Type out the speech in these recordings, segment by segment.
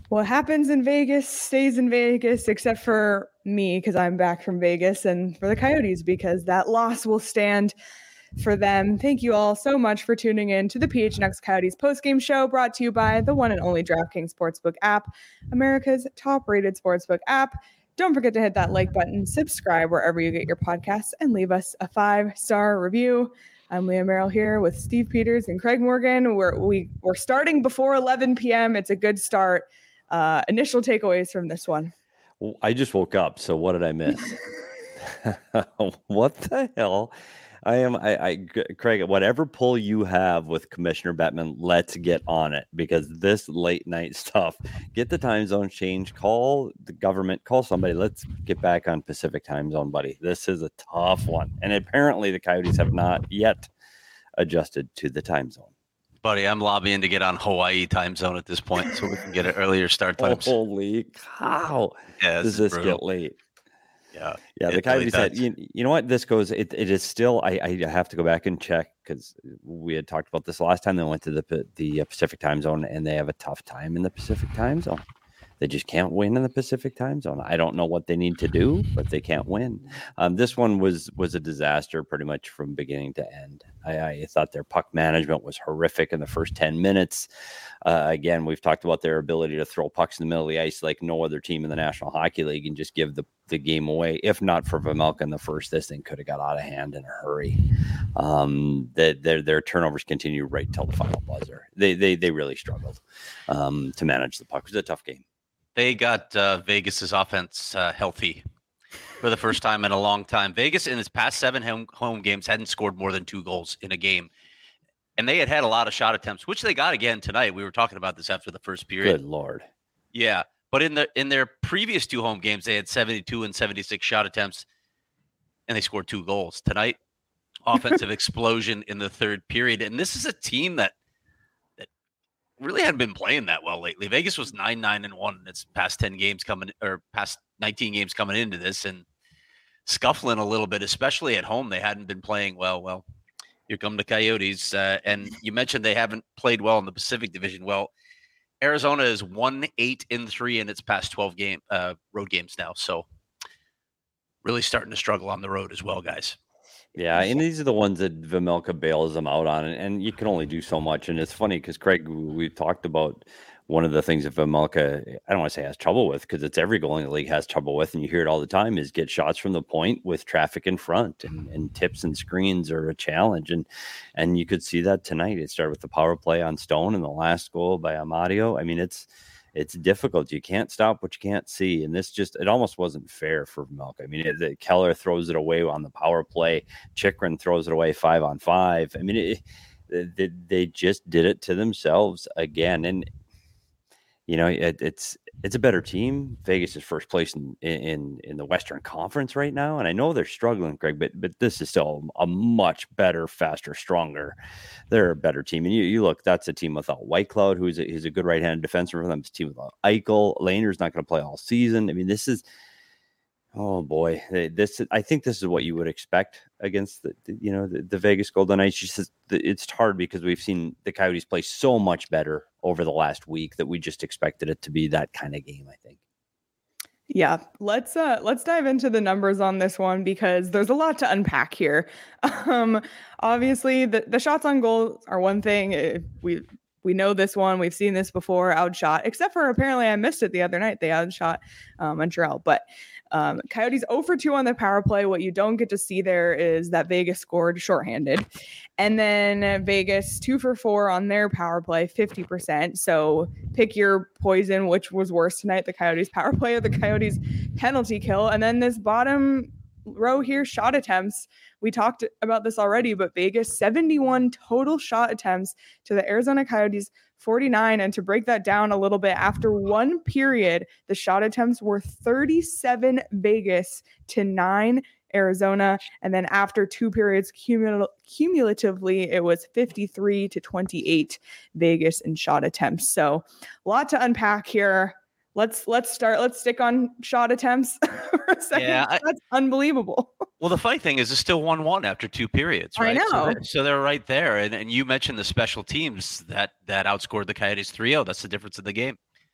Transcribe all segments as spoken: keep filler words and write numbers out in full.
what happens in Vegas stays in Vegas, except for me because I'm back from Vegas, and for the Coyotes because that loss will stand for them. Thank you all so much for tuning in to the P H N X Coyotes postgame show, brought to you by the one and only DraftKings Sportsbook app, America's top-rated sportsbook app. Don't forget to hit that like button, subscribe wherever you get your podcasts, and leave us a five-star review. I'm Leah Merrill here with Steve Peters and Craig Morgan. We're, we, we're starting before eleven p.m. It's a good start. Uh, initial takeaways from this one. Well, I just woke up, so what did I miss? What the hell? I am, I, I, Craig, whatever pull you have with Commissioner Bettman, let's get on it, because this late night stuff, get the time zone change, call the government, call somebody. Let's get back on Pacific time zone, buddy. This is a tough one. And apparently the Coyotes have not yet adjusted to the time zone. Buddy, I'm lobbying to get on Hawaii time zone at this point so we can get an earlier start times. Holy cow. Yeah, Does this brutal. Get late? Yeah. Yeah. The Coyotes really said, you, you know what, this goes, it, it is still, I, I have to go back and check because we had talked about this last time they went to the, the Pacific time zone, and they have a tough time in the Pacific time zone. They just can't win in the Pacific time zone. I don't know what they need to do, but they can't win. Um, this one was was a disaster pretty much from beginning to end. I, I thought their puck management was horrific in the first ten minutes. Uh, again, we've talked about their ability to throw pucks in the middle of the ice like no other team in the National Hockey League and just give the, the game away. If not for Vejmelka in the first, this thing could have got out of hand in a hurry. Um, the, their their turnovers continue right till the final buzzer. They they they really struggled um, to manage the puck. It was a tough game. They got uh, Vegas's offense uh, healthy for the first time in a long time. Vegas in its past seven home, home games hadn't scored more than two goals in a game. And they had had a lot of shot attempts, which they got again tonight. We were talking about this after the first period. Good Lord. Yeah. But in the in their previous two home games, they had seventy-two and seventy-six shot attempts, and they scored two goals. Tonight, offensive explosion in the third period. And this is a team that really hadn't been playing that well lately. Vegas was nine, nine and one in its past ten games coming, or past nineteen games coming into this, and scuffling a little bit, especially at home. They hadn't been playing well. Well, here come the Coyotes. Uh, and you mentioned they haven't played well in the Pacific Division. Well, Arizona is one, eight and three in its past twelve game uh, road games now. So really starting to struggle on the road as well, guys. Yeah, and these are the ones that Vejmelka bails them out on, and, and you can only do so much. And it's funny because, Craig, we talked about one of the things that Vejmelka, I don't want to say has trouble with, because it's every goalie in the league has trouble with, and you hear it all the time, is get shots from the point with traffic in front, and, and tips and screens are a challenge. And and you could see that tonight. It started with the power play on Stone and the last goal by Amadio. I mean, it's It's difficult. You can't stop what you can't see. And this just, it almost wasn't fair for Vejmelka. I mean, it, the, Keller throws it away on the power play. Chychrun throws it away five on five. I mean, it, they, they just did it to themselves again. And, you know, it, it's it's a better team. Vegas is first place in, in in the Western Conference right now. And I know they're struggling, Greg, but but this is still a much better, faster, stronger. They're a better team. And you, you look, that's a team without Whitecloud, who's a, who's a good right-handed defenseman for them. It's a team without Eichel. Lehner's not going to play all season. I mean, this is, oh boy, this I think this is what you would expect against the, the you know the, the Vegas Golden Knights. Just it's hard because we've seen the Coyotes play so much better over the last week that we just expected it to be that kind of game, I think. Yeah, let's uh let's dive into the numbers on this one because there's a lot to unpack here. Um, obviously, the the shots on goal are one thing. We we know this one. We've seen this before. Outshot, except for apparently I missed it the other night. They outshot um, Montreal, but. Um, Coyotes zero for two on the power play. What you don't get to see there is that Vegas scored shorthanded. And then Vegas two for four on their power play, fifty percent. So pick your poison, which was worse tonight, the Coyotes power play or the Coyotes penalty kill. And then this bottom row here, shot attempts. We talked about this already, but Vegas, seventy-one total shot attempts to the Arizona Coyotes, forty-nine. And to break that down a little bit, after one period, the shot attempts were thirty-seven Vegas to nine Arizona. And then after two periods, cumul- cumulatively, it was fifty-three to twenty-eight Vegas in shot attempts. So a lot to unpack here. Let's let's start. Let's stick on shot attempts for a second. Yeah, I, That's unbelievable. Well, the funny thing is it's still one one after two periods, right? I know. So, they're, so they're right there. And and you mentioned the special teams that that outscored the Coyotes three oh. That's the difference in the game.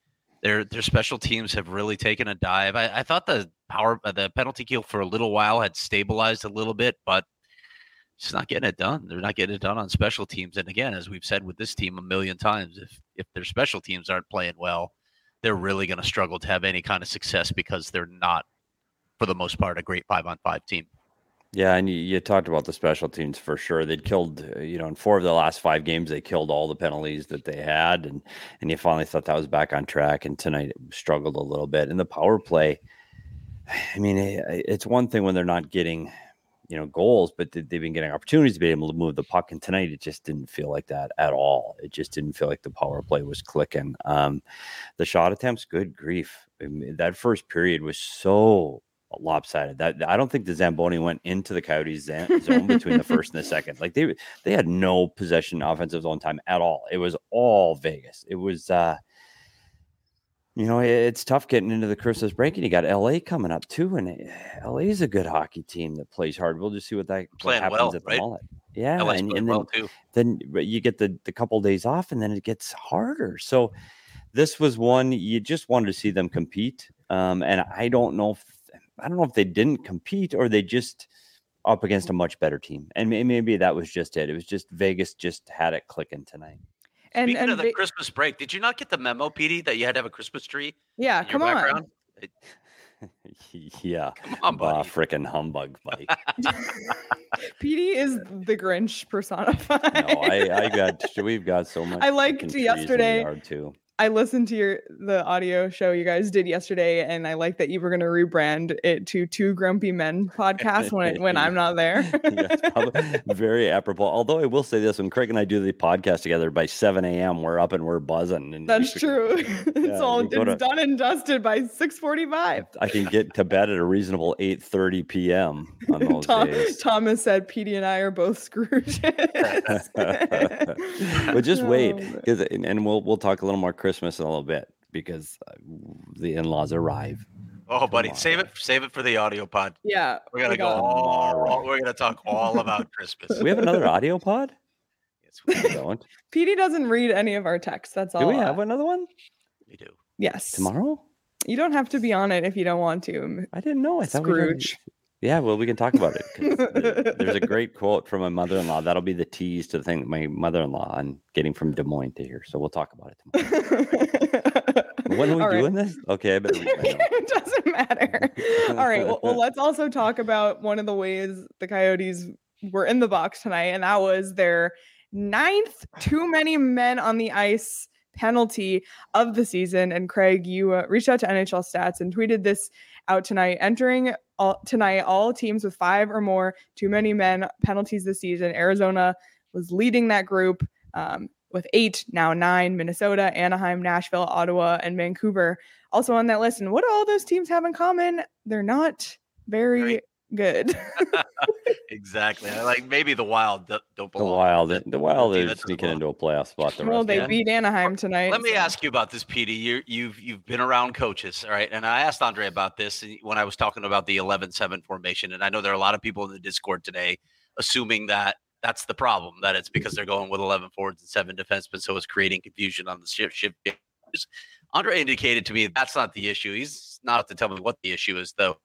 their their special teams have really taken a dive. I, I thought the power the penalty kill for a little while had stabilized a little bit, but it's not getting it done. They're not getting it done on special teams. And again, as we've said with this team a million times, if if their special teams aren't playing well, they're really going to struggle to have any kind of success because they're not, for the most part, a great five on five team. Yeah, and you, you talked about the special teams for sure. They'd killed, uh, you know, in four of the last five games, they killed all the penalties that they had, and and you finally thought that was back on track. And tonight it struggled a little bit. And the power play, I mean, it, it's one thing when they're not getting, you know, goals, but they've been getting opportunities to be able to move the puck. And tonight it just didn't feel like that at all. It just didn't feel like the power play was clicking. Um, the shot attempts, good grief. I mean, that first period was so lopsided that I don't think the Zamboni went into the Coyotes zone between the first and the second. Like they they had no possession offensive zone time at all. It was all Vegas. It was uh you know, it's tough getting into the Christmas break, and you got L A coming up too, and L A is a good hockey team that plays hard. We'll just see what that what happens well, at the right? Mullet. Yeah, L A's and, playing and then, well too. then you get the the couple days off, and then it gets harder. So this was one you just wanted to see them compete, um, and I don't know if I don't know if they didn't compete or they just up against a much better team, and maybe that was just it. It was just Vegas just had it clicking tonight. And, Speaking and of the Ve- Christmas break, did you not get the memo, Petey, that you had to have a Christmas tree? yeah, in your come on. background? It- Yeah, Come on, bah, buddy. frickin' humbug, Mike. Petey is the Grinch personified. No, I, I got we've got so much. I liked frickin' trees in the yesterday- yard too. I listened to your the audio show you guys did yesterday, and I like that you were going to rebrand it to Two Grumpy Men podcast when when I'm not there. Yes, probably very apropos. Although I will say this: when Craig and I do the podcast together by seven a.m., we're up and we're buzzing. And That's we- true. It's Yeah, all we go it's to- done and dusted by six forty-five. I can get to bed at a reasonable eight thirty p.m. on those Tom, days. Thomas said Petey and I are both Scrooges. But just wait, Oh, 'cause- and and we'll we'll talk a little more Christmas in a little bit because uh, the in-laws arrive. Oh, buddy, Tomorrow. save it save it for the audio pod. Yeah. We're gonna we go got- all, Tomorrow. we're gonna talk all about Christmas. We have another audio pod. Yes, we, We don't. Petey doesn't read any of our texts. That's all. Do we uh, have another one we do. Yes. tomorrow? You don't have to be on it if you don't want to. I didn't know. I thought we had- Scrooge. Yeah, well, we can talk about it. 'Cause there- There's a great quote from my mother-in-law. That'll be the tease to the thing my mother-in-law on getting from Des Moines to here. So we'll talk about it tomorrow. When are we All right. doing this? Okay, I better read my notes. It doesn't matter. All right. Well, well, let's also talk about one of the ways the Coyotes were in the box tonight, and that was their ninth too many men on the ice penalty of the season. And Craig, you uh, reached out to N H L Stats and tweeted this out tonight. Entering all, tonight, all teams with five or more too many men penalties this season. Arizona was leading that group um, with eight, now nine. Minnesota, Anaheim, Nashville, Ottawa, and Vancouver also on that list. And what do all those teams have in common? They're not very Right. good. Exactly. I Like maybe the Wild don't don't The belong. Wild, the Wild team are that doesn't sneaking belong. into a playoff spot. The Well, rest they of them. beat Anaheim tonight. Let me so- ask you about this, Petey. You, you've you've been around coaches, all right? And I asked Andre about this when I was talking about the eleven seven formation. And I know there are a lot of people in the Discord today assuming that that's the problem, that it's because they're going with eleven forwards and seven defensemen, so it's creating confusion on the shift. shift. Andre indicated to me that's not the issue. He's not to tell me what the issue is, though.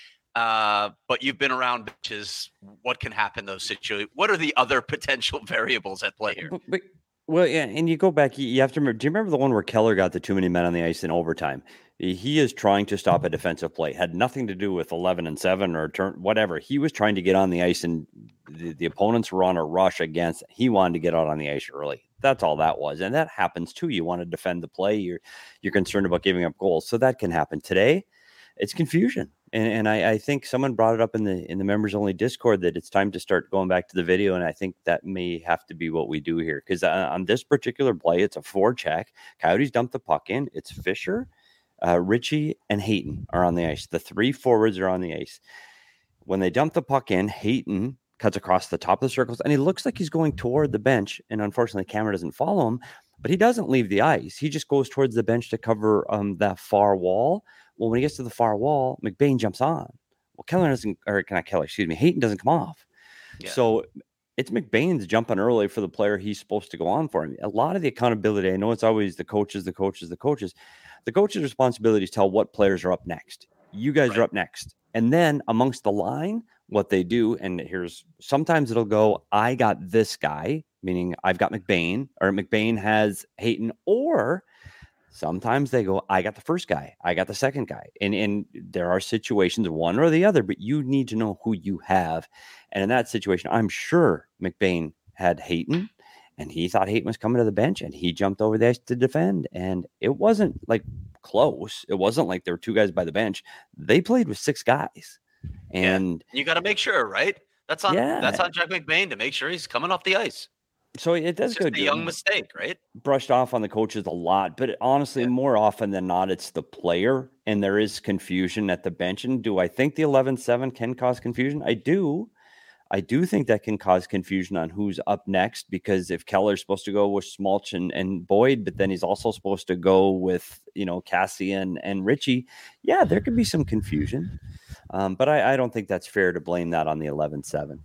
Uh, but you've been around bitches. What can happen in those situations? What are the other potential variables at play here? But, but, well, yeah, and you go back. You, you have to remember. Do you remember the one where Keller got the too many men on the ice in overtime? He is trying to stop a defensive play. Had nothing to do with eleven and seven or turn whatever. He was trying to get on the ice, and the, the opponents were on a rush against. He wanted to get out on the ice early. That's all that was, and that happens too. You want to defend the play. You're you're concerned about giving up goals, so that can happen today. It's confusion. And, and I, I think someone brought it up in the in the members only Discord that it's time to start going back to the video. And I think that may have to be what we do here. Because on, on this particular play, it's a four check. Coyotes dump the puck in. It's Fisher, uh, Ritchie, and Hayton are on the ice. The three forwards are on the ice. When they dump the puck in, Hayton cuts across the top of the circles. And he looks like he's going toward the bench. And unfortunately, the camera doesn't follow him. But he doesn't leave the ice. He just goes towards the bench to cover um, that far wall. Well, when he gets to the far wall, McBain jumps on. Well, Keller doesn't, or not Keller, excuse me, Hayton doesn't come off. Yeah. So it's McBain's jumping early for the player he's supposed to go on for him. A lot of the accountability, I know it's always the coaches, the coaches, the coaches. The coach's responsibility is to tell what players are up next. You guys Right. are up next. And then amongst the line, what they do, and here's sometimes it'll go, I got this guy, meaning I've got McBain, or McBain has Hayton, or sometimes they go, I got the first guy, I got the second guy. And, and there are situations, one or the other, but you need to know who you have. And in that situation, I'm sure McBain had Hayton, and he thought Hayton was coming to the bench, and he jumped over there to defend. And it wasn't like close. It wasn't like there were two guys by the bench. They played with six guys. And yeah. You got to make sure, right? That's on yeah. that's on Jack McBain to make sure he's coming off the ice. So it does It's go just a young mistake, right? Brushed off on the coaches a lot, but honestly, Yeah. more often than not, it's the player, and there is confusion at the bench. And do I think the eleven seven can cause confusion? I do. I do think that can cause confusion on who's up next, because if Keller's supposed to go with Smolch and, and Boyd, but then he's also supposed to go with, you know, Cassian and Richie, yeah, there could be some confusion. Um, but I, I don't think that's fair to blame that on the eleven seven.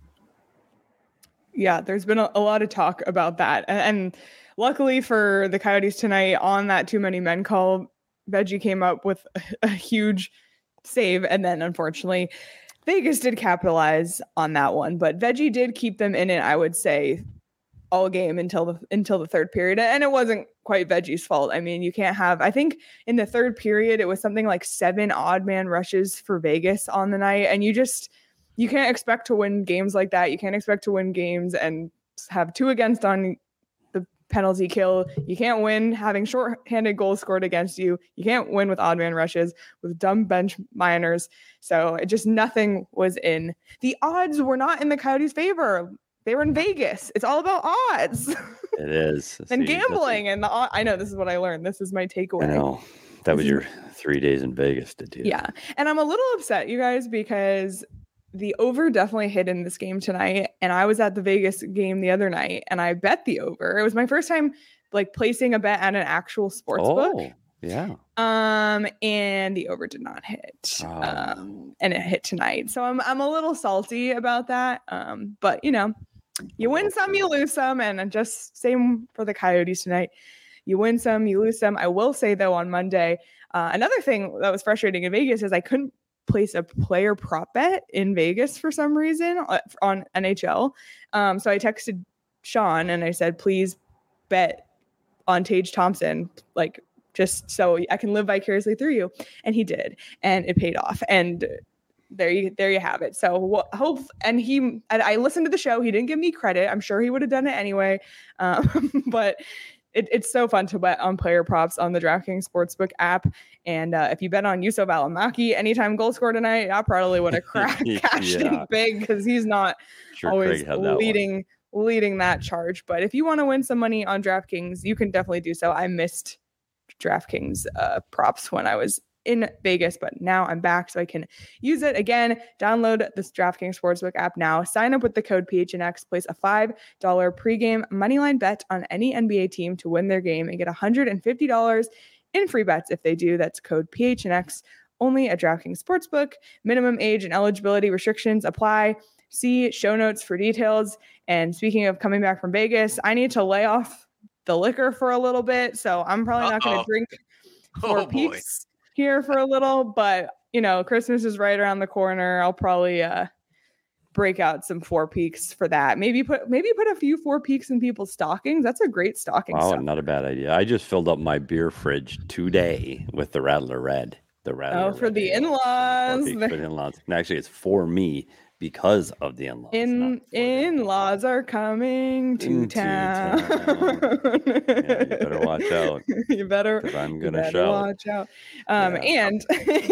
Yeah, there's been a, a lot of talk about that. And, and luckily for the Coyotes tonight, on that too many men call, Veggie came up with a, a huge save. And then unfortunately, Vegas did capitalize on that one. But Veggie did keep them in it, I would say, all game until the until the third period. And it wasn't quite Veggie's fault. I mean, you can't have, I think in the third period, it was something like seven odd man rushes for Vegas on the night. And you just, you can't expect to win games like that. You can't expect to win games and have two against on the penalty kill. You can't win having shorthanded goals scored against you. You can't win with odd man rushes, with dumb bench minors. So it just, nothing was in. The odds were not in the Coyotes' favor. They were in Vegas. It's all about odds. It is. and See, gambling. And the, I know this is what I learned. This is my takeaway. I know. That was your three days in Vegas, did you? Yeah. And I'm a little upset, you guys, because the over definitely hit in this game tonight. And I was at the Vegas game the other night and I bet the over. It was my first time like placing a bet at an actual sports oh, book. Yeah. Um, and the over did not hit. Oh. Um, and it hit tonight. So I'm I'm a little salty about that. Um, but you know, you win some, you lose some, and just same for the Coyotes tonight. You win some, you lose some. I will say though, on Monday, uh, another thing that was frustrating in Vegas is I couldn't place a player prop bet in Vegas for some reason on N H L. Um, so I texted Sean and I said, please bet on Tage Thompson, like just so I can live vicariously through you. And he did, and it paid off. And there you, there you have it. So hope, and he, and I listened to the show. He didn't give me credit. I'm sure he would have done it anyway. Um, but It, it's so fun to bet on player props on the DraftKings Sportsbook app. And uh, if you bet on Yusuf Alamaki anytime goal score tonight, I probably would have cracked cashed Yeah. in big because he's not Sure, always Craig had that leading leading that charge. But if you want to win some money on DraftKings, you can definitely do so. I missed DraftKings uh, props when I was in Vegas, but now I'm back so I can use it again. Download this DraftKings Sportsbook app now. Sign up with the code P H N X. Place a five dollars pregame moneyline bet on any N B A team to win their game and get one hundred fifty dollars in free bets if they do. That's code P H N X only at DraftKings Sportsbook. Minimum age and eligibility restrictions apply. See show notes for details. And speaking of coming back from Vegas, I need to lay off the liquor for a little bit. So I'm probably Uh-oh. not going to drink four oh, peeps here for a little, but you know, Christmas is right around the corner. I'll probably uh break out some Four Peaks for that. Maybe put maybe put a few Four Peaks in people's stockings. That's a great stocking. Wow, stuff. Not a bad idea. I just filled up my beer fridge today with the Rattler Red. The Rattler Oh, for Red the ale. in-laws. For the in-laws. And actually, it's for me because of the in-laws. In in-laws are coming to Into town. town. Yeah, you better watch out. you better. Because I'm you gonna better shout. watch out. Um, Yeah. And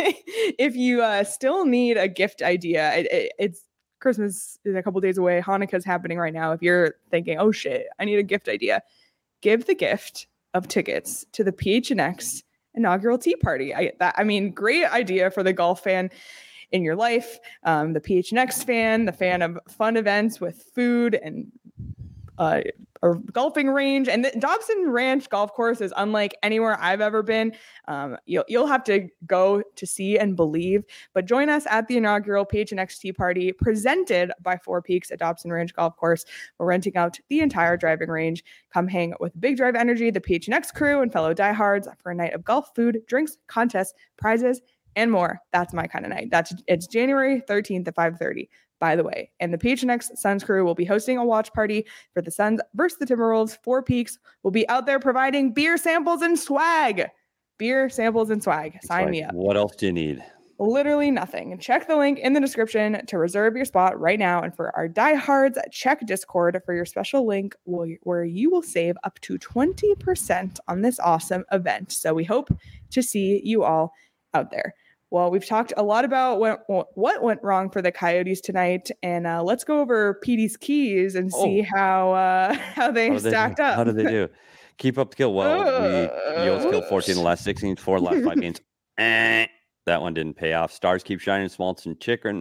if you uh, still need a gift idea, it, it, it's Christmas is a couple days away. Hanukkah's happening right now. If you're thinking, oh shit, I need a gift idea, give the gift of tickets to the P H N X inaugural tea party. I that I mean, great idea for the golf fan in your life, um, the P H N X fan, the fan of fun events with food and uh, a golfing range, and the Dobson Ranch golf course is unlike anywhere I've ever been. Um, you'll you'll have to go to see and believe. But join us at the inaugural P H N X tea party presented by Four Peaks at Dobson Ranch Golf Course. We're renting out the entire driving range. Come hang with Big Drive Energy, the P H N X crew, and fellow diehards for a night of golf, food, drinks, contests, prizes, and more. That's my kind of night. That's it's January thirteenth at five thirty. By the way, and the P H N X Suns crew will be hosting a watch party for the Suns versus the Timberwolves. Four Peaks will be out there providing beer samples and swag. Beer samples and swag. Sign Swag. me up. What else do you need? Literally nothing. And check the link in the description to reserve your spot right now. And for our diehards, check Discord for your special link where you will save up to twenty percent on this awesome event. So we hope to see you all out there. Well, we've talked a lot about what, what went wrong for the Coyotes tonight, and uh, let's go over P D's keys and see oh. how uh, how they how stacked they, up. How did they do? Keep up the kill. Well, uh, we Yo's killed fourteen in the last sixteen, four last five games. Eh, that one didn't pay off. Stars keep shining. Schmaltz and Chikrin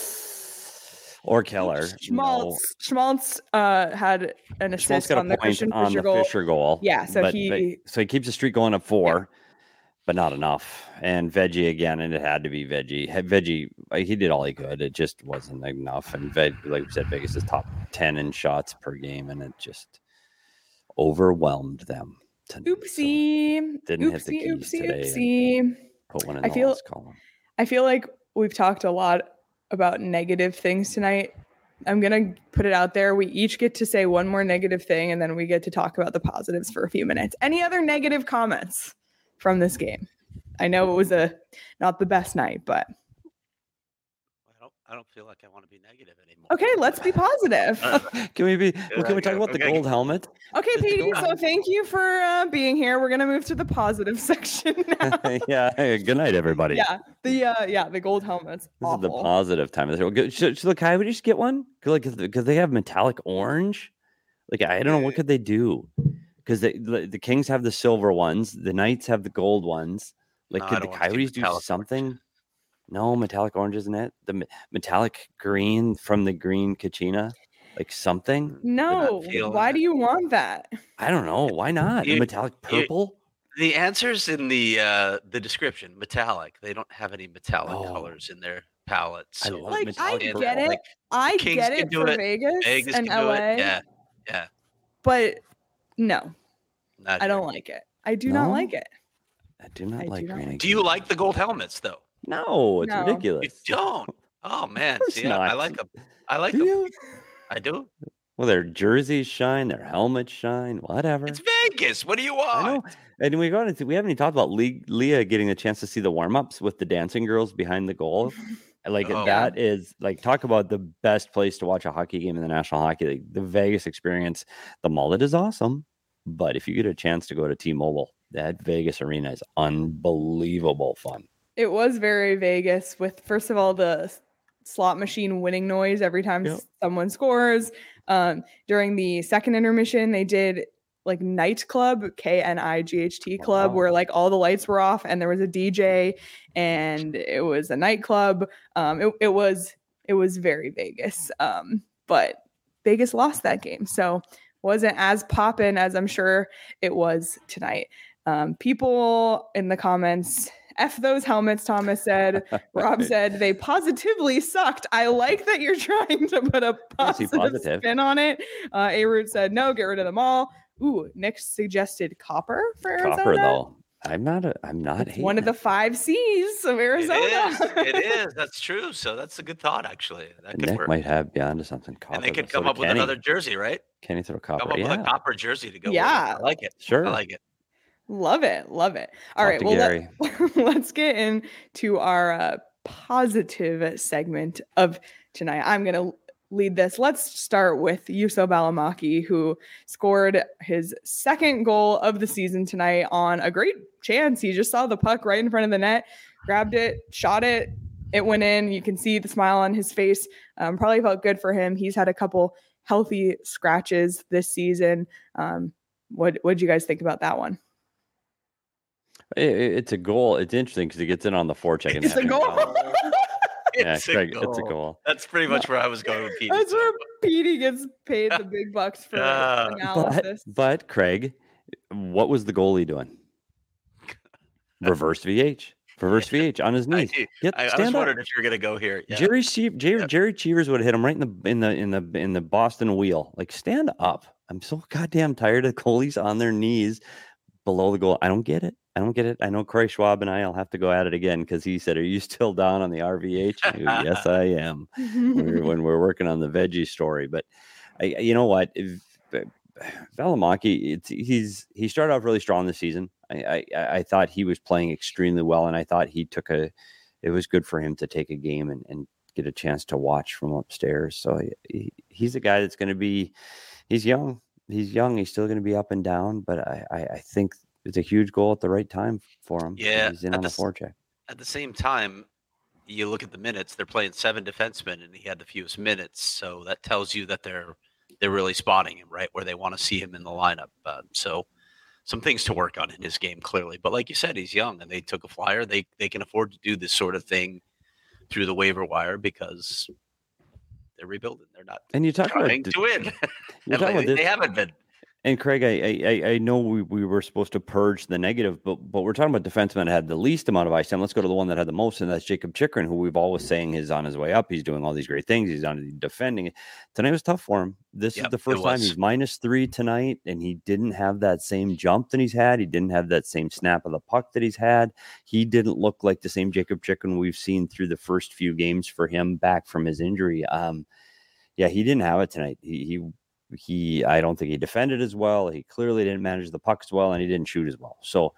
or Keller. Schmaltz, no. Schmaltz uh, had an assist on the Christian on Fisher the goal. Fisher goal. Yeah, so but, he but, so he keeps the streak going up four. Yeah. But not enough. And Veggie again, and it had to be Veggie. Veggie, he did all he could. It just wasn't enough. And Veg, like we said, Vegas is top ten in shots per game, and it just overwhelmed them. Tonight. Oopsie. So didn't oopsie, hit the keys oopsie, today. Oopsie. Put one in I the feel, last column. I feel like we've talked a lot about negative things tonight. I'm going to put it out there. We each get to say one more negative thing, and then we get to talk about the positives for a few minutes. Any other negative comments from this game? I know it was a not the best night, but I don't I don't feel like I want to be negative anymore. Okay, let's be positive. Uh, can we be well, can we talk about the okay. gold helmet? Okay, P D, so thank you for uh, being here. We're gonna move to the positive section now. Yeah, hey, good night, everybody. Yeah, the uh, yeah, the gold helmets. This awful. is the positive time of the show. Should, should the Coyotes just get one? Because like, they have metallic orange. Like I don't know what could they do? Because the the Kings have the silver ones, the Knights have the gold ones. Like, no, could the Coyotes do something? Orange. No, metallic orange, isn't it? The metallic green from the green Kachina? Like something? No. Why do you want that? I don't know. Why not? You, metallic purple? You, the answer's in the uh, the description. Metallic. They don't have any metallic oh. colors in their palette. So I love like, metallic I purple. get it. Like, I get it for it. Vegas, Vegas and L A. Yeah. Yeah. But no. Not I don't here. like it. I do no? not like it. I do not I like do green. Not. Do you like the gold helmets though? No, it's no. ridiculous. You don't. Oh man, see, I, I like them. I like do them. You? I do. Well, their jerseys shine, their helmets shine, whatever. It's Vegas. What do you want? I know. And we got into, we haven't even talked about Le- Leah getting a chance to see the warm ups with the dancing girls behind the goal. Like oh, that yeah. is like talk about the best place to watch a hockey game in the National Hockey League. The Vegas experience. The mullet is awesome, but if you get a chance to go to T-Mobile, that Vegas arena is unbelievable fun. It was very Vegas with, first of all, the slot machine winning noise every time yep. someone scores. Um, during the second intermission, they did like nightclub, K N I G H T club, wow. where like all the lights were off and there was a D J and it was a nightclub. Um, it, it was it was very Vegas, um, but Vegas lost that game, so wasn't as poppin' as I'm sure it was tonight. Um, people in the comments, F those helmets, Thomas said. Rob said they positively sucked. I like that you're trying to put a positive, positive. spin on it. Uh, A-Root said no, get rid of them all. Ooh, Nick suggested copper for Arizona. Copper though. I'm not a, I'm not it's one of the five C's of Arizona. It is. It is. That's true. So that's a good thought, actually. That could Nick work. might have beyond to something copper. And they could come up with Kenny. another jersey, right? Kenny throw copper. Come up yeah. with a copper jersey to go. Yeah, with it. I like it. Sure, I like it. Love it. Love it. All Talk right. Well, let, let's get into our uh, positive segment of tonight. I'm going to lead this. Let's start with Juuso Välimäki, who scored his second goal of the season tonight on a great chance. He just saw the puck right in front of the net, grabbed it, shot it. It went in. You can see the smile on his face. Um, probably felt good for him. He's had a couple healthy scratches this season. Um, what what did you guys think about that one? It, it's a goal. It's interesting because it gets in on the forecheck. And it's a goal. Yeah, It's a Craig, goal. it's a goal. That's pretty much where I was going with Petey. That's so. where Petey gets paid the big bucks for Uh, But analysis. but Craig, what was the goalie doing? Reverse V H. Reverse V H on his I, knees. Get I, I was stand up. wondering if you were going to go here. Yeah. Jerry Cheev, Jerry, Yeah. Jerry Cheevers would have hit him right in the in the in the in the Boston wheel. Like, stand up. I'm so goddamn tired of goalies on their knees below the goal. I don't get it. I don't get it. I know Corey Schwab and I will have to go at it again because he said, "Are you still down on the R V H?" I go, yes, I am. We're, when we're working on the veggie story, but I, you know what? If, Valimaki, it's he's he started off really strong this season. I, I I thought he was playing extremely well, and I thought he took a. It was good for him to take a game and, and get a chance to watch from upstairs. So he, he's a guy that's going to be. He's young. He's young. He's still going to be up and down, but I, I I think it's a huge goal at the right time for him. Yeah, he's in at on the a s- forecheck. At the same time, you look at the minutes. They're playing seven defensemen, and he had the fewest minutes. So that tells you that they're they're really spotting him right where they want to see him in the lineup. Uh, so some things to work on in his game, clearly. But like you said, he's young, and they took a flyer. They they can afford to do this sort of thing through the waiver wire because they're rebuilding. They're not And you talk about trying the- to win. you And talk about lately, this- they haven't been. And Craig, I, I I know we, we were supposed to purge the negative, but but we're talking about defensemen that had the least amount of ice time. Let's go to the one that had the most, and that's Jacob Chikrin, who we've always saying is on his way up. He's doing all these great things. He's on defending. Tonight was tough for him. This Yep, is the it first time was. he's minus three tonight, and he didn't have that same jump that he's had. He didn't have that same snap of the puck that he's had. He didn't look like the same Jacob Chikrin we've seen through the first few games for him back from his injury. Um, yeah, he didn't have it tonight. He he. He, I don't think he defended as well. He clearly didn't manage the puck as well, and he didn't shoot as well. So,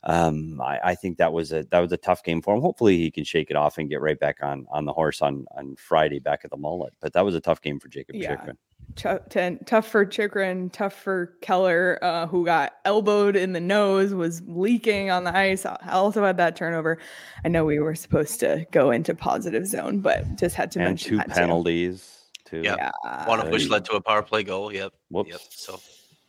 um, I, I think that was a that was a tough game for him. Hopefully, he can shake it off and get right back on on the horse on on Friday back at the Mullet. But that was a tough game for Jacob Yeah. Chikrin. Tough, ten, tough for Chikrin, tough for Keller, uh, who got elbowed in the nose, was leaking on the ice. I also had that turnover. I know we were supposed to go into positive zone, but just had to And mention two that too. penalties too. Yep. Yeah. One of which Right. led to a power play goal. Yep. Whoops. Yep. So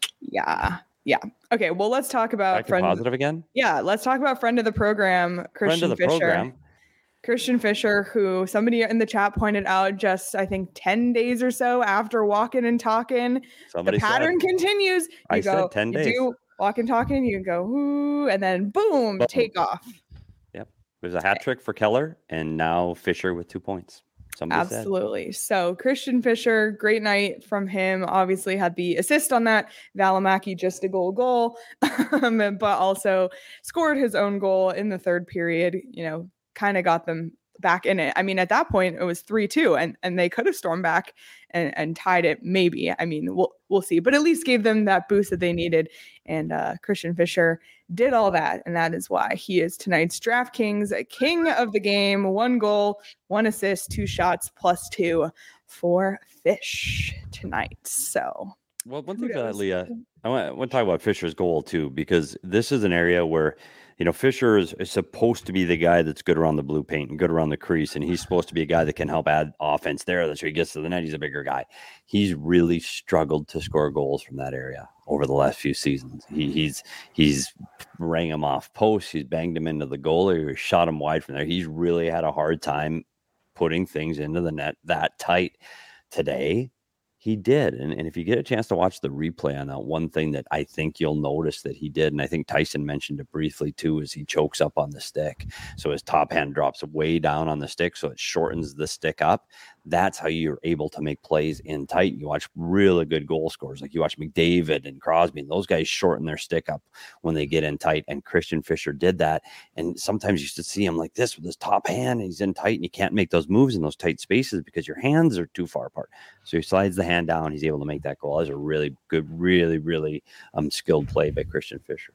Yeah. Yeah. Okay. Well, let's talk about Back to friend. positive again. Yeah. Let's talk about friend of the program, Christian Friend of the Fisher. program. Christian Fisher, who somebody in the chat pointed out just, I think, ten days or so after walking and talking, Somebody the pattern said, continues. You I go, said ten you days. do walk and talking, you go, ooh, and then boom, Boom. take off. There's a hat trick for Keller, and now Fisher with two points. Somebody said. Absolutely. So Christian Fisher, great night from him. Obviously had the assist on that. Valimaki just a goal goal, um, but also scored his own goal in the third period. You know, kind of got them back in it. I mean, at that point it was three two, and and they could have stormed back and, and tied it. Maybe. I mean, we'll we'll see, but at least gave them that boost that they needed. And uh, Christian Fisher did all that, and that is why he is tonight's DraftKings king of the game. One goal, one assist, two shots, plus two for Fish tonight. So, Well, one thing for kudos. that, Leah, I want, I want to talk about Fisher's goal too, because this is an area where, you know, Fisher is, is supposed to be the guy that's good around the blue paint and good around the crease, and he's supposed to be a guy that can help add offense there. That's where he gets to the net. He's a bigger guy. He's really struggled to score goals from that area over the last few seasons. He, he's he's rang him off posts. He's banged him into the goal, or shot him wide from there. He's really had a hard time putting things into the net that tight. Today, he did. And, and if you get a chance to watch the replay on that, one thing that I think you'll notice that he did, and I think Tyson mentioned it briefly too, is he chokes up on the stick. So his top hand drops way down on the stick, so it shortens the stick up. That's how you're able to make plays in tight. You watch really good goal scorers, like you watch McDavid and Crosby, and those guys shorten their stick up when they get in tight. And Christian Fisher did that. And sometimes you used to see him like this with his top hand, and he's in tight, and you can't make those moves in those tight spaces because your hands are too far apart. So he slides the hand down. He's able to make that goal. That's a really good, really, really um, skilled play by Christian Fisher.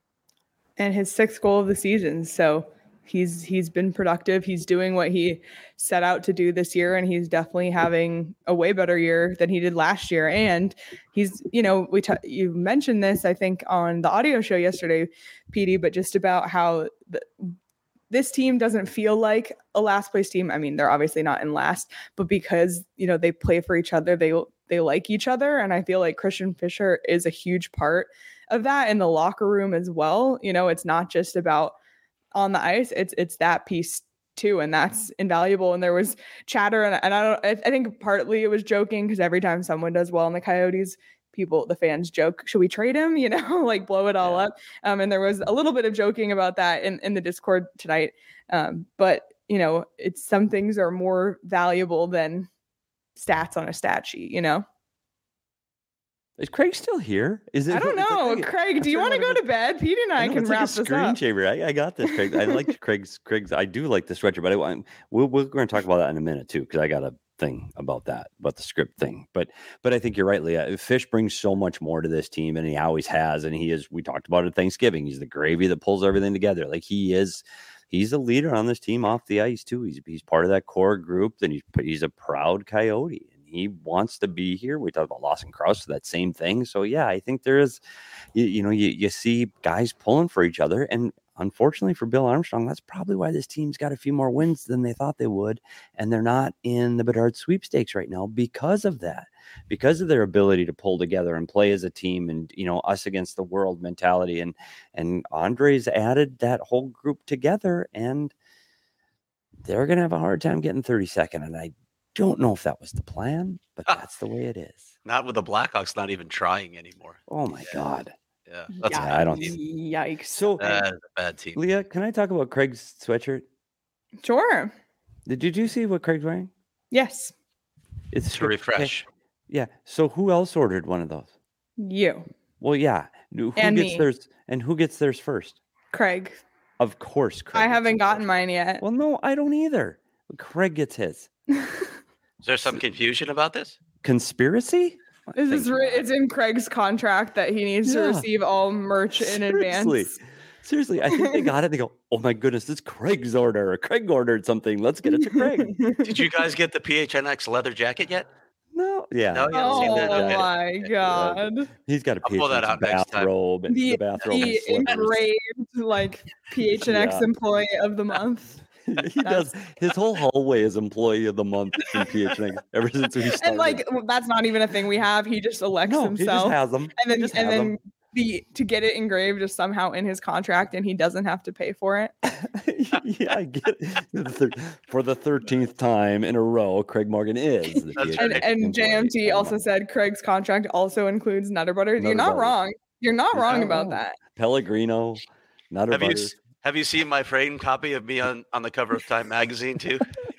and his sixth goal of the season. So he's he's been productive. He's doing what he set out to do this year, and he's definitely having a way better year than he did last year. And he's, you know, we t- you mentioned this, I think, on the audio show yesterday, Petey, but just about how the, this team doesn't feel like a last place team. I mean, they're obviously not in last, but because, you know, they play for each other, they they like each other, and I feel like Christian Fisher is a huge part of that in the locker room as well. You know, it's not just about on the ice, it's it's that piece too, and that's invaluable. And there was chatter, and, and I don't, I, I think partly it was joking because every time someone does well in the Coyotes, people, the fans joke, should we trade him? You know, like blow it all yeah. up. Um, and there was a little bit of joking about that in, in the Discord tonight. Um, but you know, it's some things are more valuable than stats on a stat sheet, you know? Is Craig still here? Is it? I don't know. Like, Craig, do you want to go to bed? Pete and I, I know, can wrap like this screen up. Shaver. I, I got this, Craig. I like Craig's. Craig's. I do like the stretcher, but I want. We'll, we're going to talk about that in a minute too, because I got a thing about that, about the script thing. But but I think you're right, Leah. Fish brings so much more to this team, and he always has. And he is. We talked about it at Thanksgiving. He's the gravy that pulls everything together. Like he is. He's a leader on this team off the ice too. He's he's part of that core group. Then he's he's a proud Coyote. He wants to be here. We talked about Lawson Crouse, that same thing. So, yeah, I think there is, you, you know, you, you see guys pulling for each other. And unfortunately for Bill Armstrong, that's probably why this team's got a few more wins than they thought they would. And they're not in the Bedard sweepstakes right now because of that, because of their ability to pull together and play as a team and, you know, us against the world mentality. And, and Andre's added that whole group together, and they're going to have a hard time getting thirty-second. And I don't know if that was the plan, but that's the way it is. Not with the Blackhawks not even trying anymore. Oh my God. Yeah. That's yeah, a bad I don't team. Yikes. So That's a bad team. Leah, can I talk about Craig's sweatshirt? Sure. Did, did you see what Craig's wearing? Yes. It's to refresh. Okay. Yeah. So who else ordered one of those? You. Well, yeah. Who and gets me. theirs and who gets theirs first? Craig. Of course, Craig. I haven't gotten mine yet. Well, no, I don't either. Craig gets his. Is there some confusion about this? Conspiracy? This is re- it's in Craig's contract that he needs yeah. to receive all merch in Seriously. advance. Seriously, I think they got it. They go, oh my goodness, it's Craig's order. Craig ordered something. Let's get it to Craig. Did you guys get the P H N X leather jacket yet? No. Yeah. No, you haven't oh seen that? Okay. my God. Yeah. He's got a P H N X bathrobe. And the, the bathrobe the engraved like P H N X yeah. employee of the month. He does. His whole hallway is employee of the month in P H N X ever since we started. And like that's not even a thing we have. He just elects no, himself. He just has them. And then and and then them. the to get it engraved is somehow in his contract, and he doesn't have to pay for it. Yeah, I get it. For the thirteenth time in a row, Craig Morgan is. The P H N X and and J M T also said Craig's contract also includes Nutter Butter. Nutter You're not butter. wrong. You're not You're wrong not about wrong. that. Pellegrino, Nutter have Butter. You, have you seen my framed copy of me on, on the cover of Time magazine too?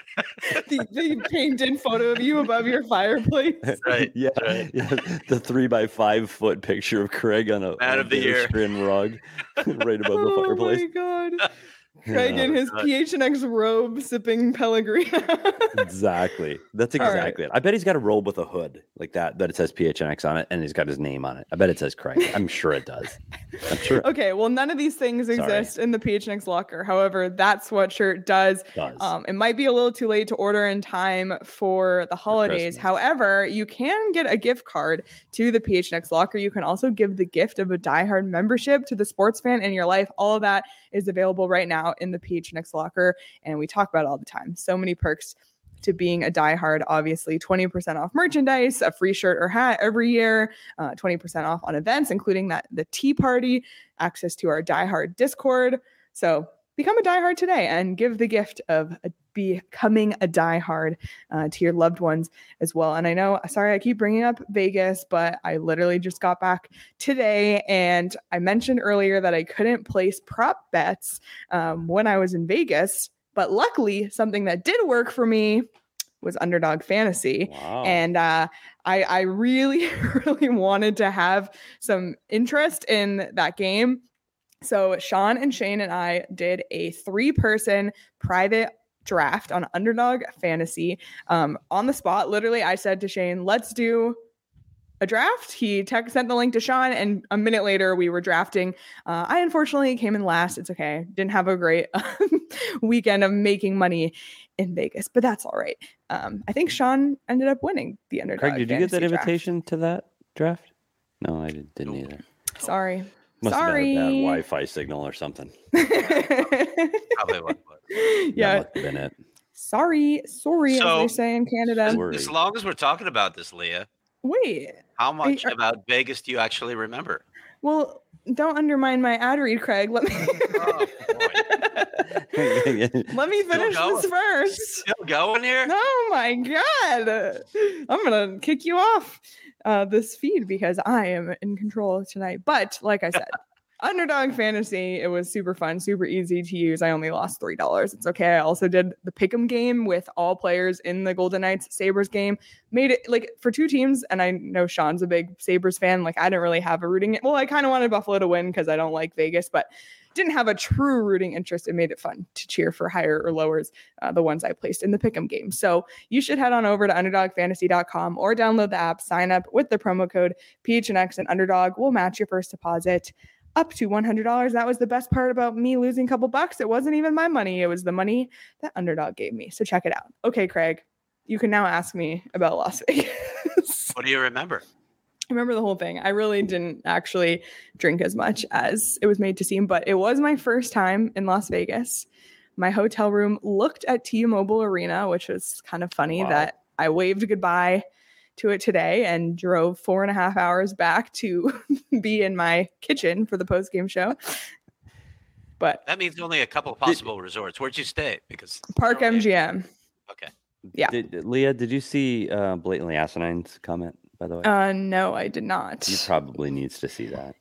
the, the painted photo of you above your fireplace. Right. Yeah. Right. Yeah. The three by five foot picture of Craig on a, Man on of the year rug right above the oh fireplace. Oh my God. Craig yeah. in his P H N X robe sipping Pellegrino. Exactly. That's exactly right. it. I bet he's got a robe with a hood like that, that it says P H N X on it, and he's got his name on it. I bet it says Craig. I'm sure it does. I'm sure. Okay, well, none of these things exist Sorry. in the P H N X locker. However, that sweatshirt does. does. Um, it might be a little too late to order in time for the holidays. For However, you can get a gift card to the P H N X locker. You can also give the gift of a diehard membership to the sports fan in your life. All of that is available right now in the P H N X locker, and we talk about it all the time. So many perks to being a diehard. Obviously, twenty percent off merchandise, a free shirt or hat every year, uh, twenty percent off on events, including that the tea party, access to our diehard Discord. So become a diehard today and give the gift of a, becoming a diehard uh, to your loved ones as well. And I know, sorry, I keep bringing up Vegas, but I literally just got back today, and I mentioned earlier that I couldn't place prop bets um, when I was in Vegas. But luckily, something that did work for me was Underdog Fantasy. Wow. And uh, I, I really, really wanted to have some interest in that game. So Sean and Shane and I did a three-person private draft on Underdog Fantasy um, on the spot. Literally, I said to Shane, let's do a draft. He text, sent the link to Sean, and a minute later we were drafting. Uh, I unfortunately came in last. It's okay. Didn't have a great weekend of making money in Vegas, but that's all right. Um, I think Sean ended up winning the Underdog Craig, did you get that draft. invitation to that draft? No, I didn't either. Sorry. Must Sorry. have been a bad Wi-Fi signal or something. Probably was. Yeah. That must have been it. Sorry. Sorry, So- as they say in Canada. Sorry. As long as we're talking about this, Leah, Wait. how much are- about Vegas do you actually remember? Well, don't undermine my ad read, Craig. Let me Oh, let me finish this first. Still going here? Oh my god! I'm gonna kick you off uh, this feed because I am in control tonight. But like I said, Underdog Fantasy, it was super fun, super easy to use. I only lost three dollars. It's okay. I also did the pick'em game with all players in the Golden Knights Sabres game. Made it like for two teams, and I know Sean's a big Sabres fan. Like I didn't really have a rooting. Well, I kind of wanted Buffalo to win because I don't like Vegas, but didn't have a true rooting interest. It made it fun to cheer for higher or lowers, uh, the ones I placed in the pick'em game. So you should head on over to underdog fantasy dot com or download the app, sign up with the promo code P H N X, and Underdog will match your first deposit up to one hundred dollars. That was the best part about me losing a couple bucks. It wasn't even my money. It was the money that Underdog gave me. So check it out. Okay, Craig, you can now ask me about Las Vegas. What do you remember? I remember the whole thing. I really didn't actually drink as much as it was made to seem, but it was my first time in Las Vegas. My hotel room looked at T-Mobile Arena, which was kind of funny. Wow. That I waved goodbye to it today and drove four and a half hours back to be in my kitchen for the post-game show. But that means only a couple of possible did, resorts. Where'd you stay? Because Park M G M. Okay. Yeah. Did, Leah, did you see uh, Blatantly Asinine's comment, by the way? Uh, no, I did not. You probably needs to see that.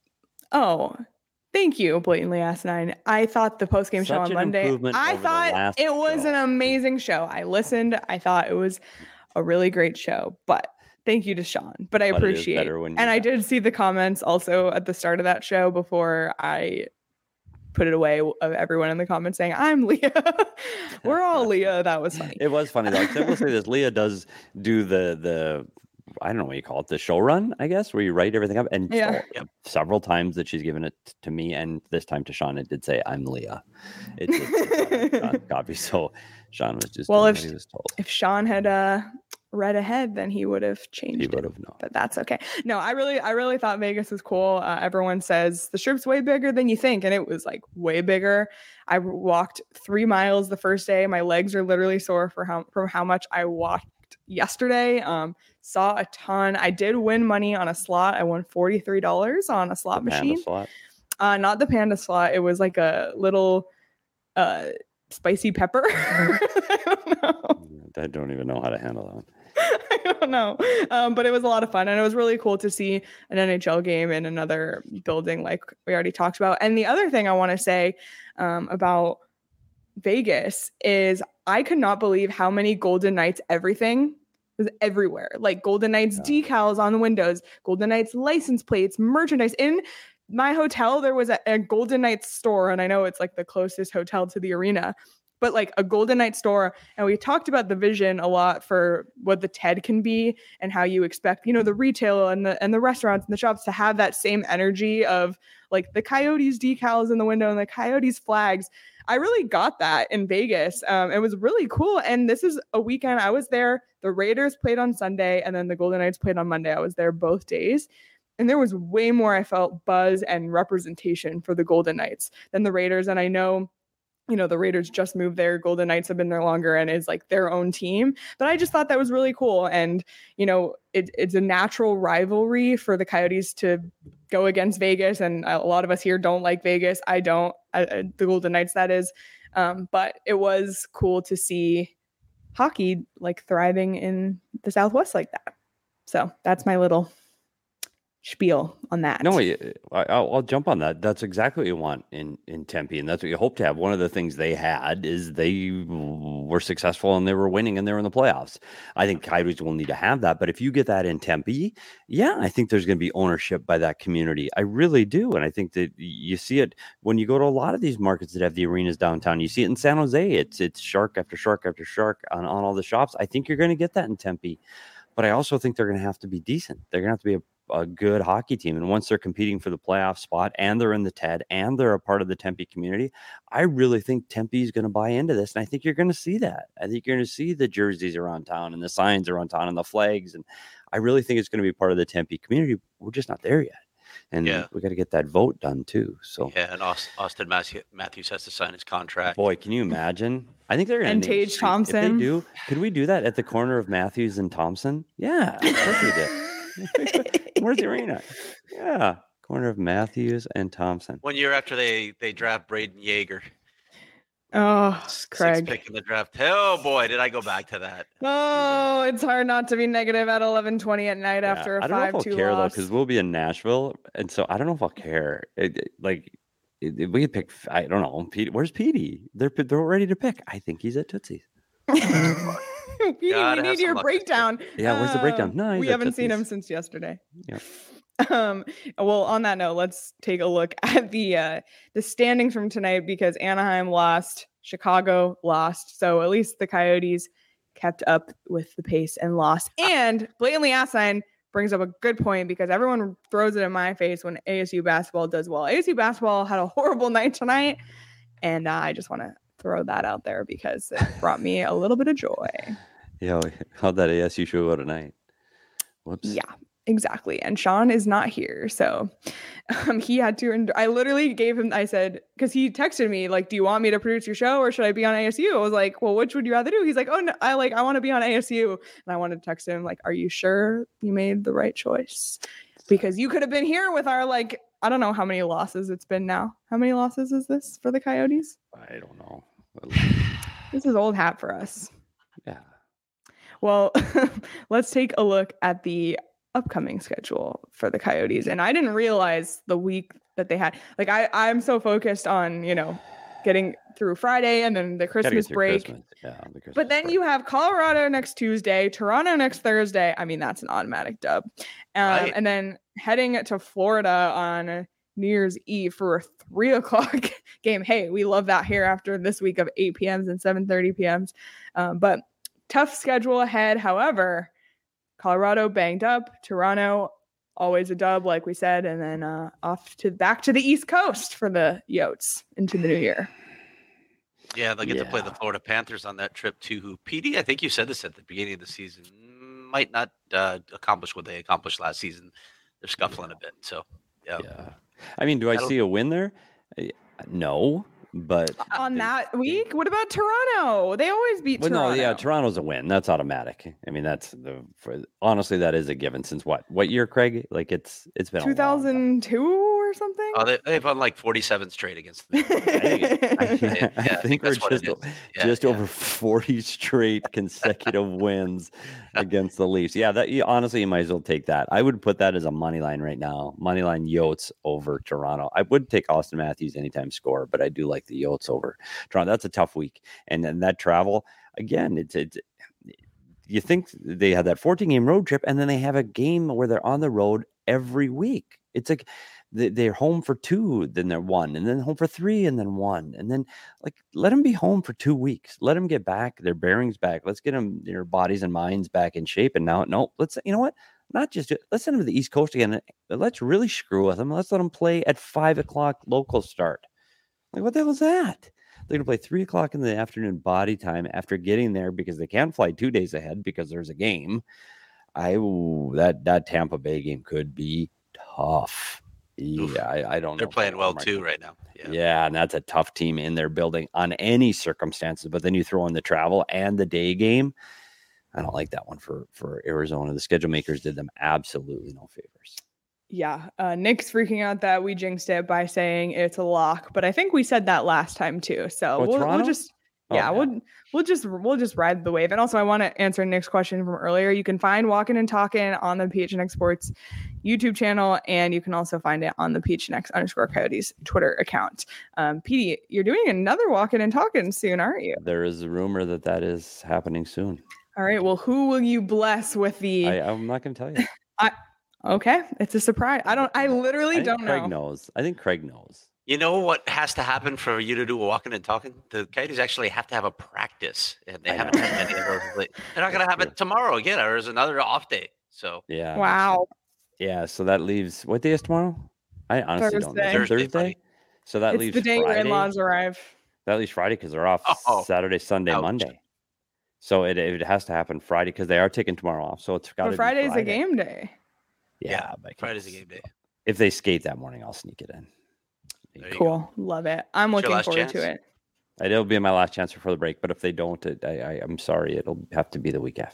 Oh, thank you, Blatantly Asinine. I thought the post-game show on Monday, I thought it was show. an amazing show. I listened. I thought it was a really great show, but thank you to Sean. But I but appreciate it. And I did see the comments also at the start of that show before I put it away of everyone in the comments saying, I'm Leah. We're all Leah. That was funny. It was funny though. I will say this. Leah does do the, the, I don't know what you call it, the show run, I guess, where you write everything up. And yeah. so, several times that she's given it to me and this time to Sean, it did say, I'm Leah. It did say Sean copy. So Sean was just well, if, he was told. If Sean had uh, read ahead, then he would have changed he would it. have known. But that's okay. No, I really, I really thought Vegas was cool. Uh, everyone says the strip's way bigger than you think. And it was like way bigger. I walked three miles the first day. My legs are literally sore for how, from how much I walked yesterday. Um, saw a ton. I did win money on a slot. I won forty-three dollars on a slot the machine. Slot? Uh, not the panda slot. It was like a little uh, spicy pepper. I don't know. I don't even know how to handle that one. I don't know. Um, but it was a lot of fun. And it was really cool to see an N H L game in another building like we already talked about. And the other thing I want to say um, about Vegas is I could not believe how many Golden Knights everything was everywhere. Like Golden Knights yeah. decals on the windows, Golden Knights license plates, merchandise. In my hotel, there was a, a Golden Knights store. And I know it's like the closest hotel to the arena, but like a Golden Knight store. And we talked about the vision a lot for what the T E D can be and how you expect, you know, the retail and the and the restaurants and the shops to have that same energy of like the Coyotes decals in the window and the Coyotes flags. I really got that in Vegas. Um, it was really cool. And this is a weekend I was there. The Raiders played on Sunday and then the Golden Knights played on Monday. I was there both days. And there was way more, I felt, buzz and representation for the Golden Knights than the Raiders. And I know, you know, the Raiders just moved there. Golden Knights have been there longer and is like their own team. But I just thought that was really cool. And, you know, it, it's a natural rivalry for the Coyotes to go against Vegas. And a lot of us here don't like Vegas. I don't, I, I, the Golden Knights, that is. Um, but it was cool to see hockey like thriving in the Southwest like that. So that's my little spiel on that. No, I, I'll, I'll jump on that. That's exactly what you want in, in Tempe, and that's what you hope to have. One of the things they had is they were successful and they were winning and they were in the playoffs. I think Coyotes will need to have that, but if you get that in Tempe, yeah, I think there's going to be ownership by that community. I really do, and I think that you see it when you go to a lot of these markets that have the arenas downtown. You see it in San Jose. It's it's shark after shark after shark on, on all the shops. I think you're going to get that in Tempe, but I also think they're going to have to be decent. They're going to have to be a a good hockey team. And once they're competing for the playoff spot and they're in the T E D and they're a part of the Tempe community, I really think Tempe is going to buy into this. And I think you're going to see that. I think you're going to see the jerseys around town and the signs around town and the flags. And I really think it's going to be part of the Tempe community. We're just not there yet. And yeah. we got to get that vote done too. So yeah, and Austin Matthews has to sign his contract. Boy, can you imagine? I think they're going to and Tage Thompson. If they do, could we do that at the corner of Matthews and Thompson? Yeah, of course we did. Where's the arena? Yeah, Corner of Matthews and Thompson. One year after they they draft Braden Yeager. Oh, Craig. Sixth pick in the draft. Oh boy, did I go back to that. Oh, it's hard not to be negative at eleven twenty at night Yeah, after a I don't know five if two I'll care loss. though, because we'll be in Nashville, and so I don't know if I'll care. It, it- like it, it- we could pick. I don't know. Pete, where's Petey? They're they're ready to pick. I think he's at Tootsie's. Petey, we Gotta have need some your luck this year. breakdown. Yeah, where's the breakdown? Um, No, he's we at haven't seen him Tootsie's. since yesterday. Yep. Um, well, on that note, let's take a look at the uh, the standings from tonight because Anaheim lost, Chicago lost, so at least the Coyotes kept up with the pace and lost. And blatantly asinine brings up a good point because everyone throws it in my face when A S U basketball does well. A S U basketball had a horrible night tonight, and uh, I just want to throw that out there because it brought me a little bit of joy. Yeah, how'd that A S U show go tonight? Whoops. Yeah, exactly. And Sean is not here. So um, he had to, and I literally gave him, I said, because he texted me, like, do you want me to produce your show or should I be on A S U? I was like, well, which would you rather do? He's like, oh, no, I like, I want to be on A S U. And I wanted to text him, like, are you sure you made the right choice? Because you could have been here with our, like, I don't know how many losses it's been now. How many losses is this for the Coyotes? I don't know. This is old hat for us. Yeah. Well, let's take a look at the upcoming schedule for the Coyotes. And I didn't realize the week that they had. Like, I, I'm so focused on, you know, getting through Friday and then the Gotta get Christmas through break. Christmas. Yeah, the Christmas But then break. you have Colorado next Tuesday, Toronto next Thursday. I mean, that's an automatic dub. Um, Right. And then heading to Florida on New Year's Eve for a three o'clock game. Hey, we love that here after this week of eight p.m.s and seven thirty p.m.s. Um, but tough schedule ahead. However, Colorado banged up, Toronto always a dub, like we said, and then uh, off to back to the East Coast for the Yotes into the new year. Yeah, they'll get to play the Yeah. Florida Panthers on that trip too. Who P D, I think you said this at the beginning of the season, might not uh, accomplish what they accomplished last season. They're scuffling a bit. So yeah, Yeah. I mean, do I That'll- see a win there? Uh, No, but On they- that week, what about Toronto? They always beat Well, Toronto. no, yeah, Toronto's a win. That's automatic. I mean, that's the for, honestly that is a given since what? What year, Craig? Like it's it's been a long time. two thousand two or something. oh, they, they've won like forty-seven straight against them. I think, I, Yeah, I I think we're that's what it just is. o- Yeah, just yeah. over forty straight consecutive wins against the Leafs. Yeah, that you, honestly, you might as well take that. I would put that as a money line right now. Money line Yotes over Toronto. I would take Austin Matthews anytime score, but I do like the Yotes over Toronto. That's a tough week, and then that travel again. It's it's. You think they had that fourteen game road trip, and then they have a game where they're on the road every week. It's like they- they're home for two, then they're one, and then home for three, and then one, and then like let them be home for two weeks. Let them get back their bearings back. Let's get them their bodies and minds back in shape. And now, no, let's you know what? Not just do- let's send them to the East Coast again. and Let's really screw with them. Let's let them play at five o'clock local start. Like what the hell is that? They're gonna play three o'clock in the afternoon body time after getting there because they can't fly two days ahead because there's a game. I ooh, that that Tampa Bay game could be tough. Oof. Yeah, I, I don't. They're know if playing I well like too them. right now. Yeah. Yeah, and that's a tough team in their building on any circumstances. But then you throw in the travel and the day game. I don't like that one for for Arizona. The schedule makers did them absolutely no favors. Yeah, uh, Nick's freaking out that we jinxed it by saying it's a lock, but I think we said that last time too. So Oh, we'll, we'll Toronto? just Oh, yeah, yeah. we'll we'll just we'll just ride the wave. And also, I want to answer Nick's question from earlier. You can find Walking and Talking on the P H N X Sports YouTube channel, and you can also find it on the P H N X underscore Coyotes Twitter account. Um, P D, you're doing another Walking and Talking soon, aren't you? There is a rumor that that is happening soon. All right. Well, who will you bless with the? I, I'm not going to tell you. Okay, it's a surprise. I don't. I literally I think don't Craig know. knows. I think Craig knows. You know what has to happen for you to do a walking and talking? The Coyotes actually have to have a practice, and they I haven't know. had many of those. lately. They're not going to have True. it tomorrow again, or there's another off day. So Yeah. Wow. Yeah. So that leaves what day is tomorrow? I honestly don't know. Thursday. Is it Thursday, Thursday. buddy. So that It's leaves the day your Friday. in-laws arrive. That leaves Friday because they're off Oh, Saturday, Sunday, ouch. Monday. So it, it has to happen Friday because they are taking tomorrow off. So it's got to But be Friday's Friday. a game day. Yeah, Yeah, but I can't- Friday's a game day. If they skate that morning, I'll sneak it in. There you Cool. Love it. I'm It's your looking last forward chance. to it. It'll be my last chance before the break. But if they don't, it, I, I, I'm sorry. It'll have to be the week after.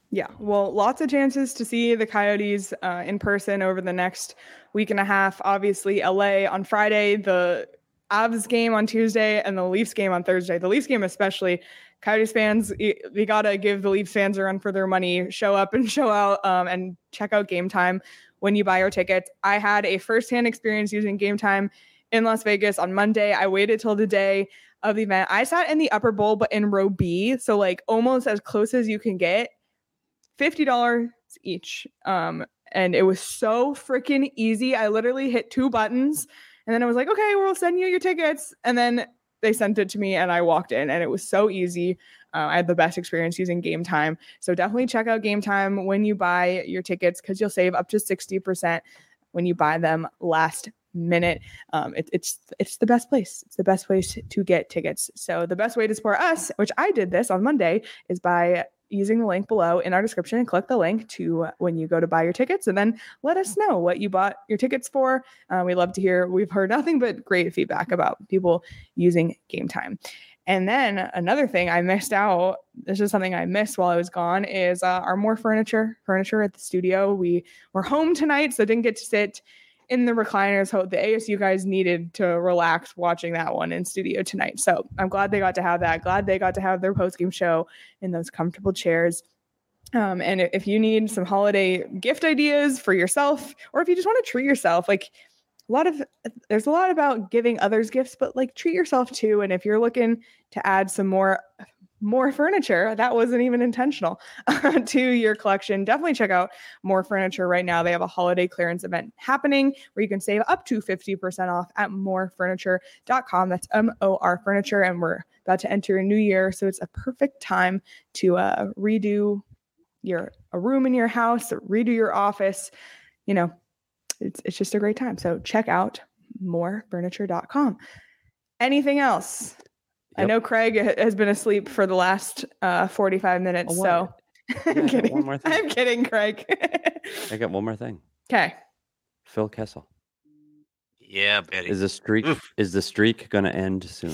Yeah, well, lots of chances to see the Coyotes uh, in person over the next week and a half. Obviously, L A on Friday, the Avs game on Tuesday, and the Leafs game on Thursday. The Leafs game especially. Coyotes fans, we got to give the Leafs fans a run for their money. Show up and show out um, and check out Game Time when you buy your tickets. I had a firsthand experience using Game Time in Las Vegas on Monday. I waited till the day of the event. I sat in the upper bowl, but in row B, so like almost as close as you can get. fifty dollars each. Um, and it was so freaking easy. I literally hit two buttons and then I was like, okay, we'll send you your tickets. And then they sent it to me and I walked in and it was so easy. Uh, I had the best experience using Game Time. So definitely check out Game Time when you buy your tickets because you'll save up to sixty percent when you buy them last minute. Um, it, it's it's the best place. It's the best place to get tickets. So the best way to support us, which I did this on Monday, is by using the link below in our description and click the link to uh, when you go to buy your tickets and then let us know what you bought your tickets for. Uh, we love to hear. We've heard nothing but great feedback about people using Game Time. And then another thing I missed out, this is something I missed while I was gone, is uh, our more furniture, furniture at the studio. We were home tonight, so didn't get to sit in the recliners. So the A S U guys needed to relax watching that one in studio tonight. So I'm glad they got to have that. Glad they got to have their post-game show in those comfortable chairs. Um, and if you need some holiday gift ideas for yourself, or if you just want to treat yourself, like a lot of, there's a lot about giving others gifts, but like treat yourself too. And if you're looking to add some more more furniture that wasn't even intentional to your collection, definitely check out More Furniture right now. They have a holiday clearance event happening where you can save up to fifty percent off at more furniture dot com. That's M O R Furniture. And we're about to enter a new year. So it's a perfect time to uh, redo your a room in your house, redo your office. You know, it's, it's just a great time. So check out more furniture dot com. Anything else? Yep. I know Craig has been asleep for the last uh, forty-five minutes. Oh, so I'm kidding. One more thing. I'm kidding, Craig. I got one more thing. Okay. Phil Kessel. Yeah, Betty. Is the streak Oof. is the streak going to end soon?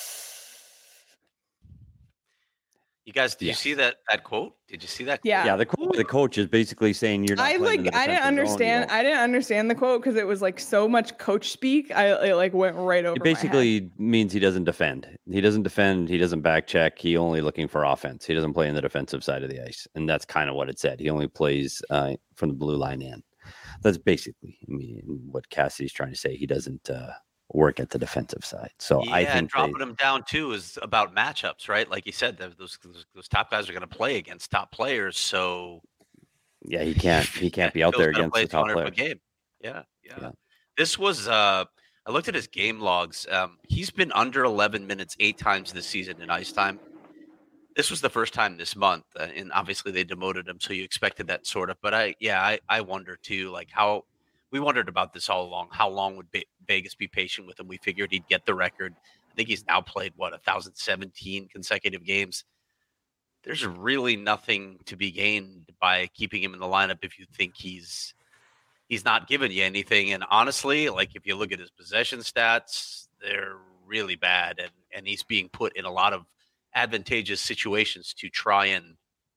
You guys, did yeah. you see that that quote? Did you see that quote? Yeah. Yeah, the quote, the coach is basically saying you're not I like I didn't understand zone, I didn't understand the quote because it was like so much coach speak. I it like went right over. It basically my head. means he doesn't defend. He doesn't defend, he doesn't back check. He only looking for offense. He doesn't play in the defensive side of the ice. And that's kind of what it said. He only plays uh, from the blue line in. That's basically I mean what Cassie's trying to say. He doesn't uh work at the defensive side. So yeah, I think and dropping they, them down too is about matchups, right? Like you said, those those, those top guys are going to play against top players. So yeah, he can't he can't be out there against the top player. Game. Yeah, yeah, yeah. This was uh I looked at his game logs. Um, he's been under eleven minutes eight times this season in ice time. This was the first time this month, uh, and obviously they demoted him, so you expected that sort of. But I, yeah, I, I wonder too, like how we wondered about this all along. How long would Be- Vegas be patient with him? We figured he'd get the record. I think he's now played what one thousand seventeen consecutive games. There's really nothing to be gained by keeping him in the lineup if you think he's he's not giving you anything. And honestly, like if you look at his possession stats, they're really bad, and and he's being put in a lot of advantageous situations to try and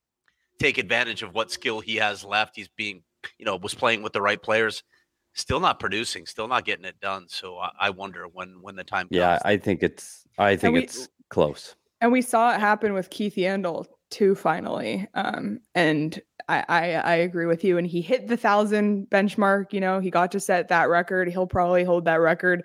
take advantage of what skill he has left. He's being, you know, was playing with the right players. Still not producing, still not getting it done. So I, I wonder when when the time comes. Yeah, I think it's I think we, it's close. And we saw it happen with Keith Yandle too, finally. Um, and I, I I agree with you. And he hit the thousand benchmark. You know, he got to set that record. He'll probably hold that record,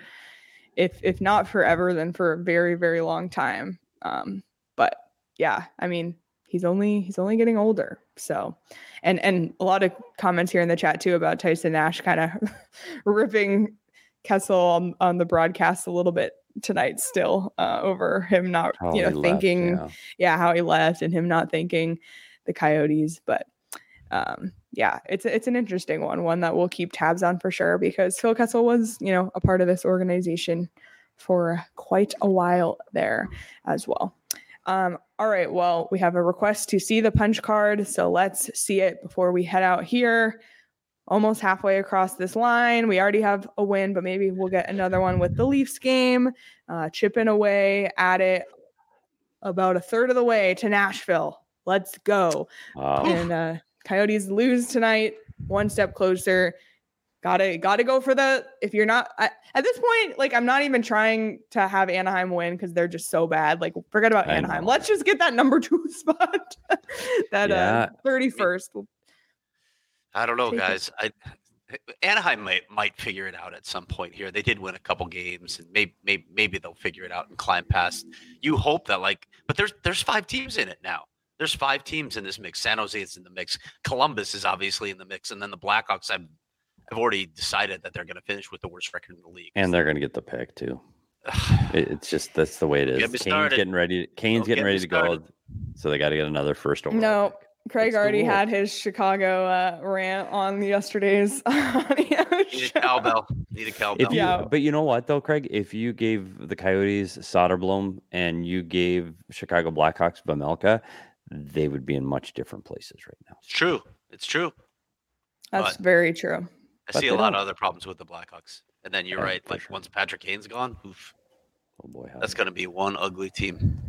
if if not forever, then for a very very long time. Um, but yeah, I mean. He's only he's only getting older. So, and and a lot of comments here in the chat too about Tyson Nash kind of ripping Kessel on, on the broadcast a little bit tonight still uh, over him not how you know thinking left, yeah. yeah how he left and him not thinking the Coyotes. But um, yeah, it's it's an interesting one, one that we'll keep tabs on for sure because Phil Kessel was you know a part of this organization for quite a while there as well. Um, all right, well, we have a request to see the punch card, so let's see it before we head out here. Almost halfway across this line. We already have a win, but maybe we'll get another one with the Leafs game. Uh, chipping away at it about a third of the way to Nashville. Let's go. Wow. And uh, Coyotes lose tonight, one step closer. Gotta gotta go for the. If you're not I, at this point, like I'm not even trying to have Anaheim win because they're just so bad. Like forget about I Anaheim. know. Let's just get that number two spot. that Yeah. uh, thirty-first. I don't know, Take it. guys. I Anaheim might might figure it out at some point here. They did win a couple games, and maybe maybe maybe they'll figure it out and climb past. You hope that, like, but there's there's five teams in it now. There's five teams in this mix. San Jose is in the mix. Columbus is obviously in the mix, and then the Blackhawks. I've I've already decided that they're going to finish with the worst record in the league. And they're going to get the pick too. It, it's just that's the way it is. Get me Kane's started. getting ready. Kane's Don't getting get ready me to go, started. so they got to get another first overall. No, pick. Craig It's the already rule. had his Chicago uh, rant on yesterday's audio Need a show. cowbell. Need a cowbell. If you, Yeah. But you know what though, Craig? If you gave the Coyotes Soderblom and you gave Chicago Blackhawks Vejmelka, they would be in much different places right now. It's true. It's true. That's But- very true. I But see a they lot of don't. other problems with the Blackhawks. And then you're Yeah, right. for Like sure. once Patrick Kane's gone, oof, Oh boy, how that's going to be one ugly team.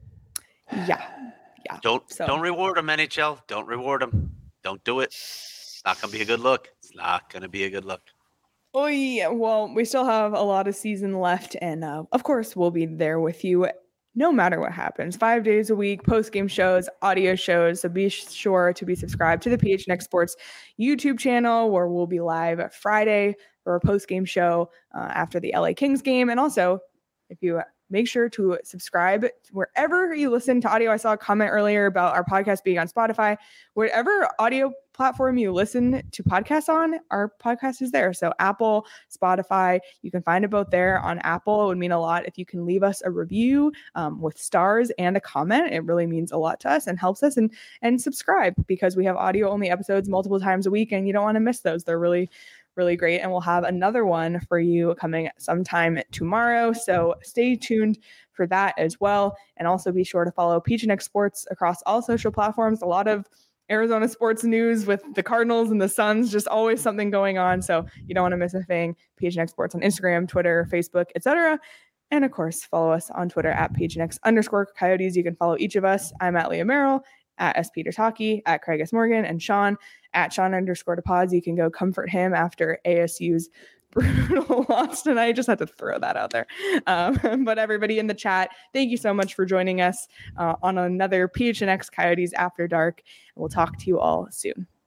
Yeah. Don't So- don't reward them, N H L. Don't reward them. Don't do it. It's not going to be a good look. It's not going to be a good look. Oh yeah. Well, we still have a lot of season left, and uh, of course, we'll be there with you no matter what happens. Five days a week, post game shows, audio shows. So be sure to be subscribed to the P H N X Sports YouTube channel, where we'll be live Friday for a post game show uh, after the L A Kings game, and also if you make sure to subscribe wherever you listen to audio. I saw a comment earlier about our podcast being on Spotify. Whatever audio platform you listen to podcasts on, our podcast is there. So Apple, Spotify, you can find it both there. On Apple, it would mean a lot if you can leave us a review um, with stars and a comment. It really means a lot to us and helps us. And and subscribe, because we have audio only episodes multiple times a week, and you don't want to miss those. They're really really great. And we'll have another one for you coming sometime tomorrow. So stay tuned for that as well. And also be sure to follow P H N X Sports across all social platforms. A lot of Arizona sports news with the Cardinals and the Suns, just always something going on. So you don't want to miss a thing. P H N X Sports on Instagram, Twitter, Facebook, et cetera. And of course, follow us on Twitter at P H N X underscore Coyotes. You can follow each of us. I'm at Leah Merrill, at S. Peter Taki, at Craig S. Morgan, and Sean at Sean underscore DePods. You can go comfort him after A S U's brutal loss tonight. Just had to throw that out there. Um, but everybody in the chat, thank you so much for joining us uh, on another P H N X Coyotes After Dark. And we'll talk to you all soon.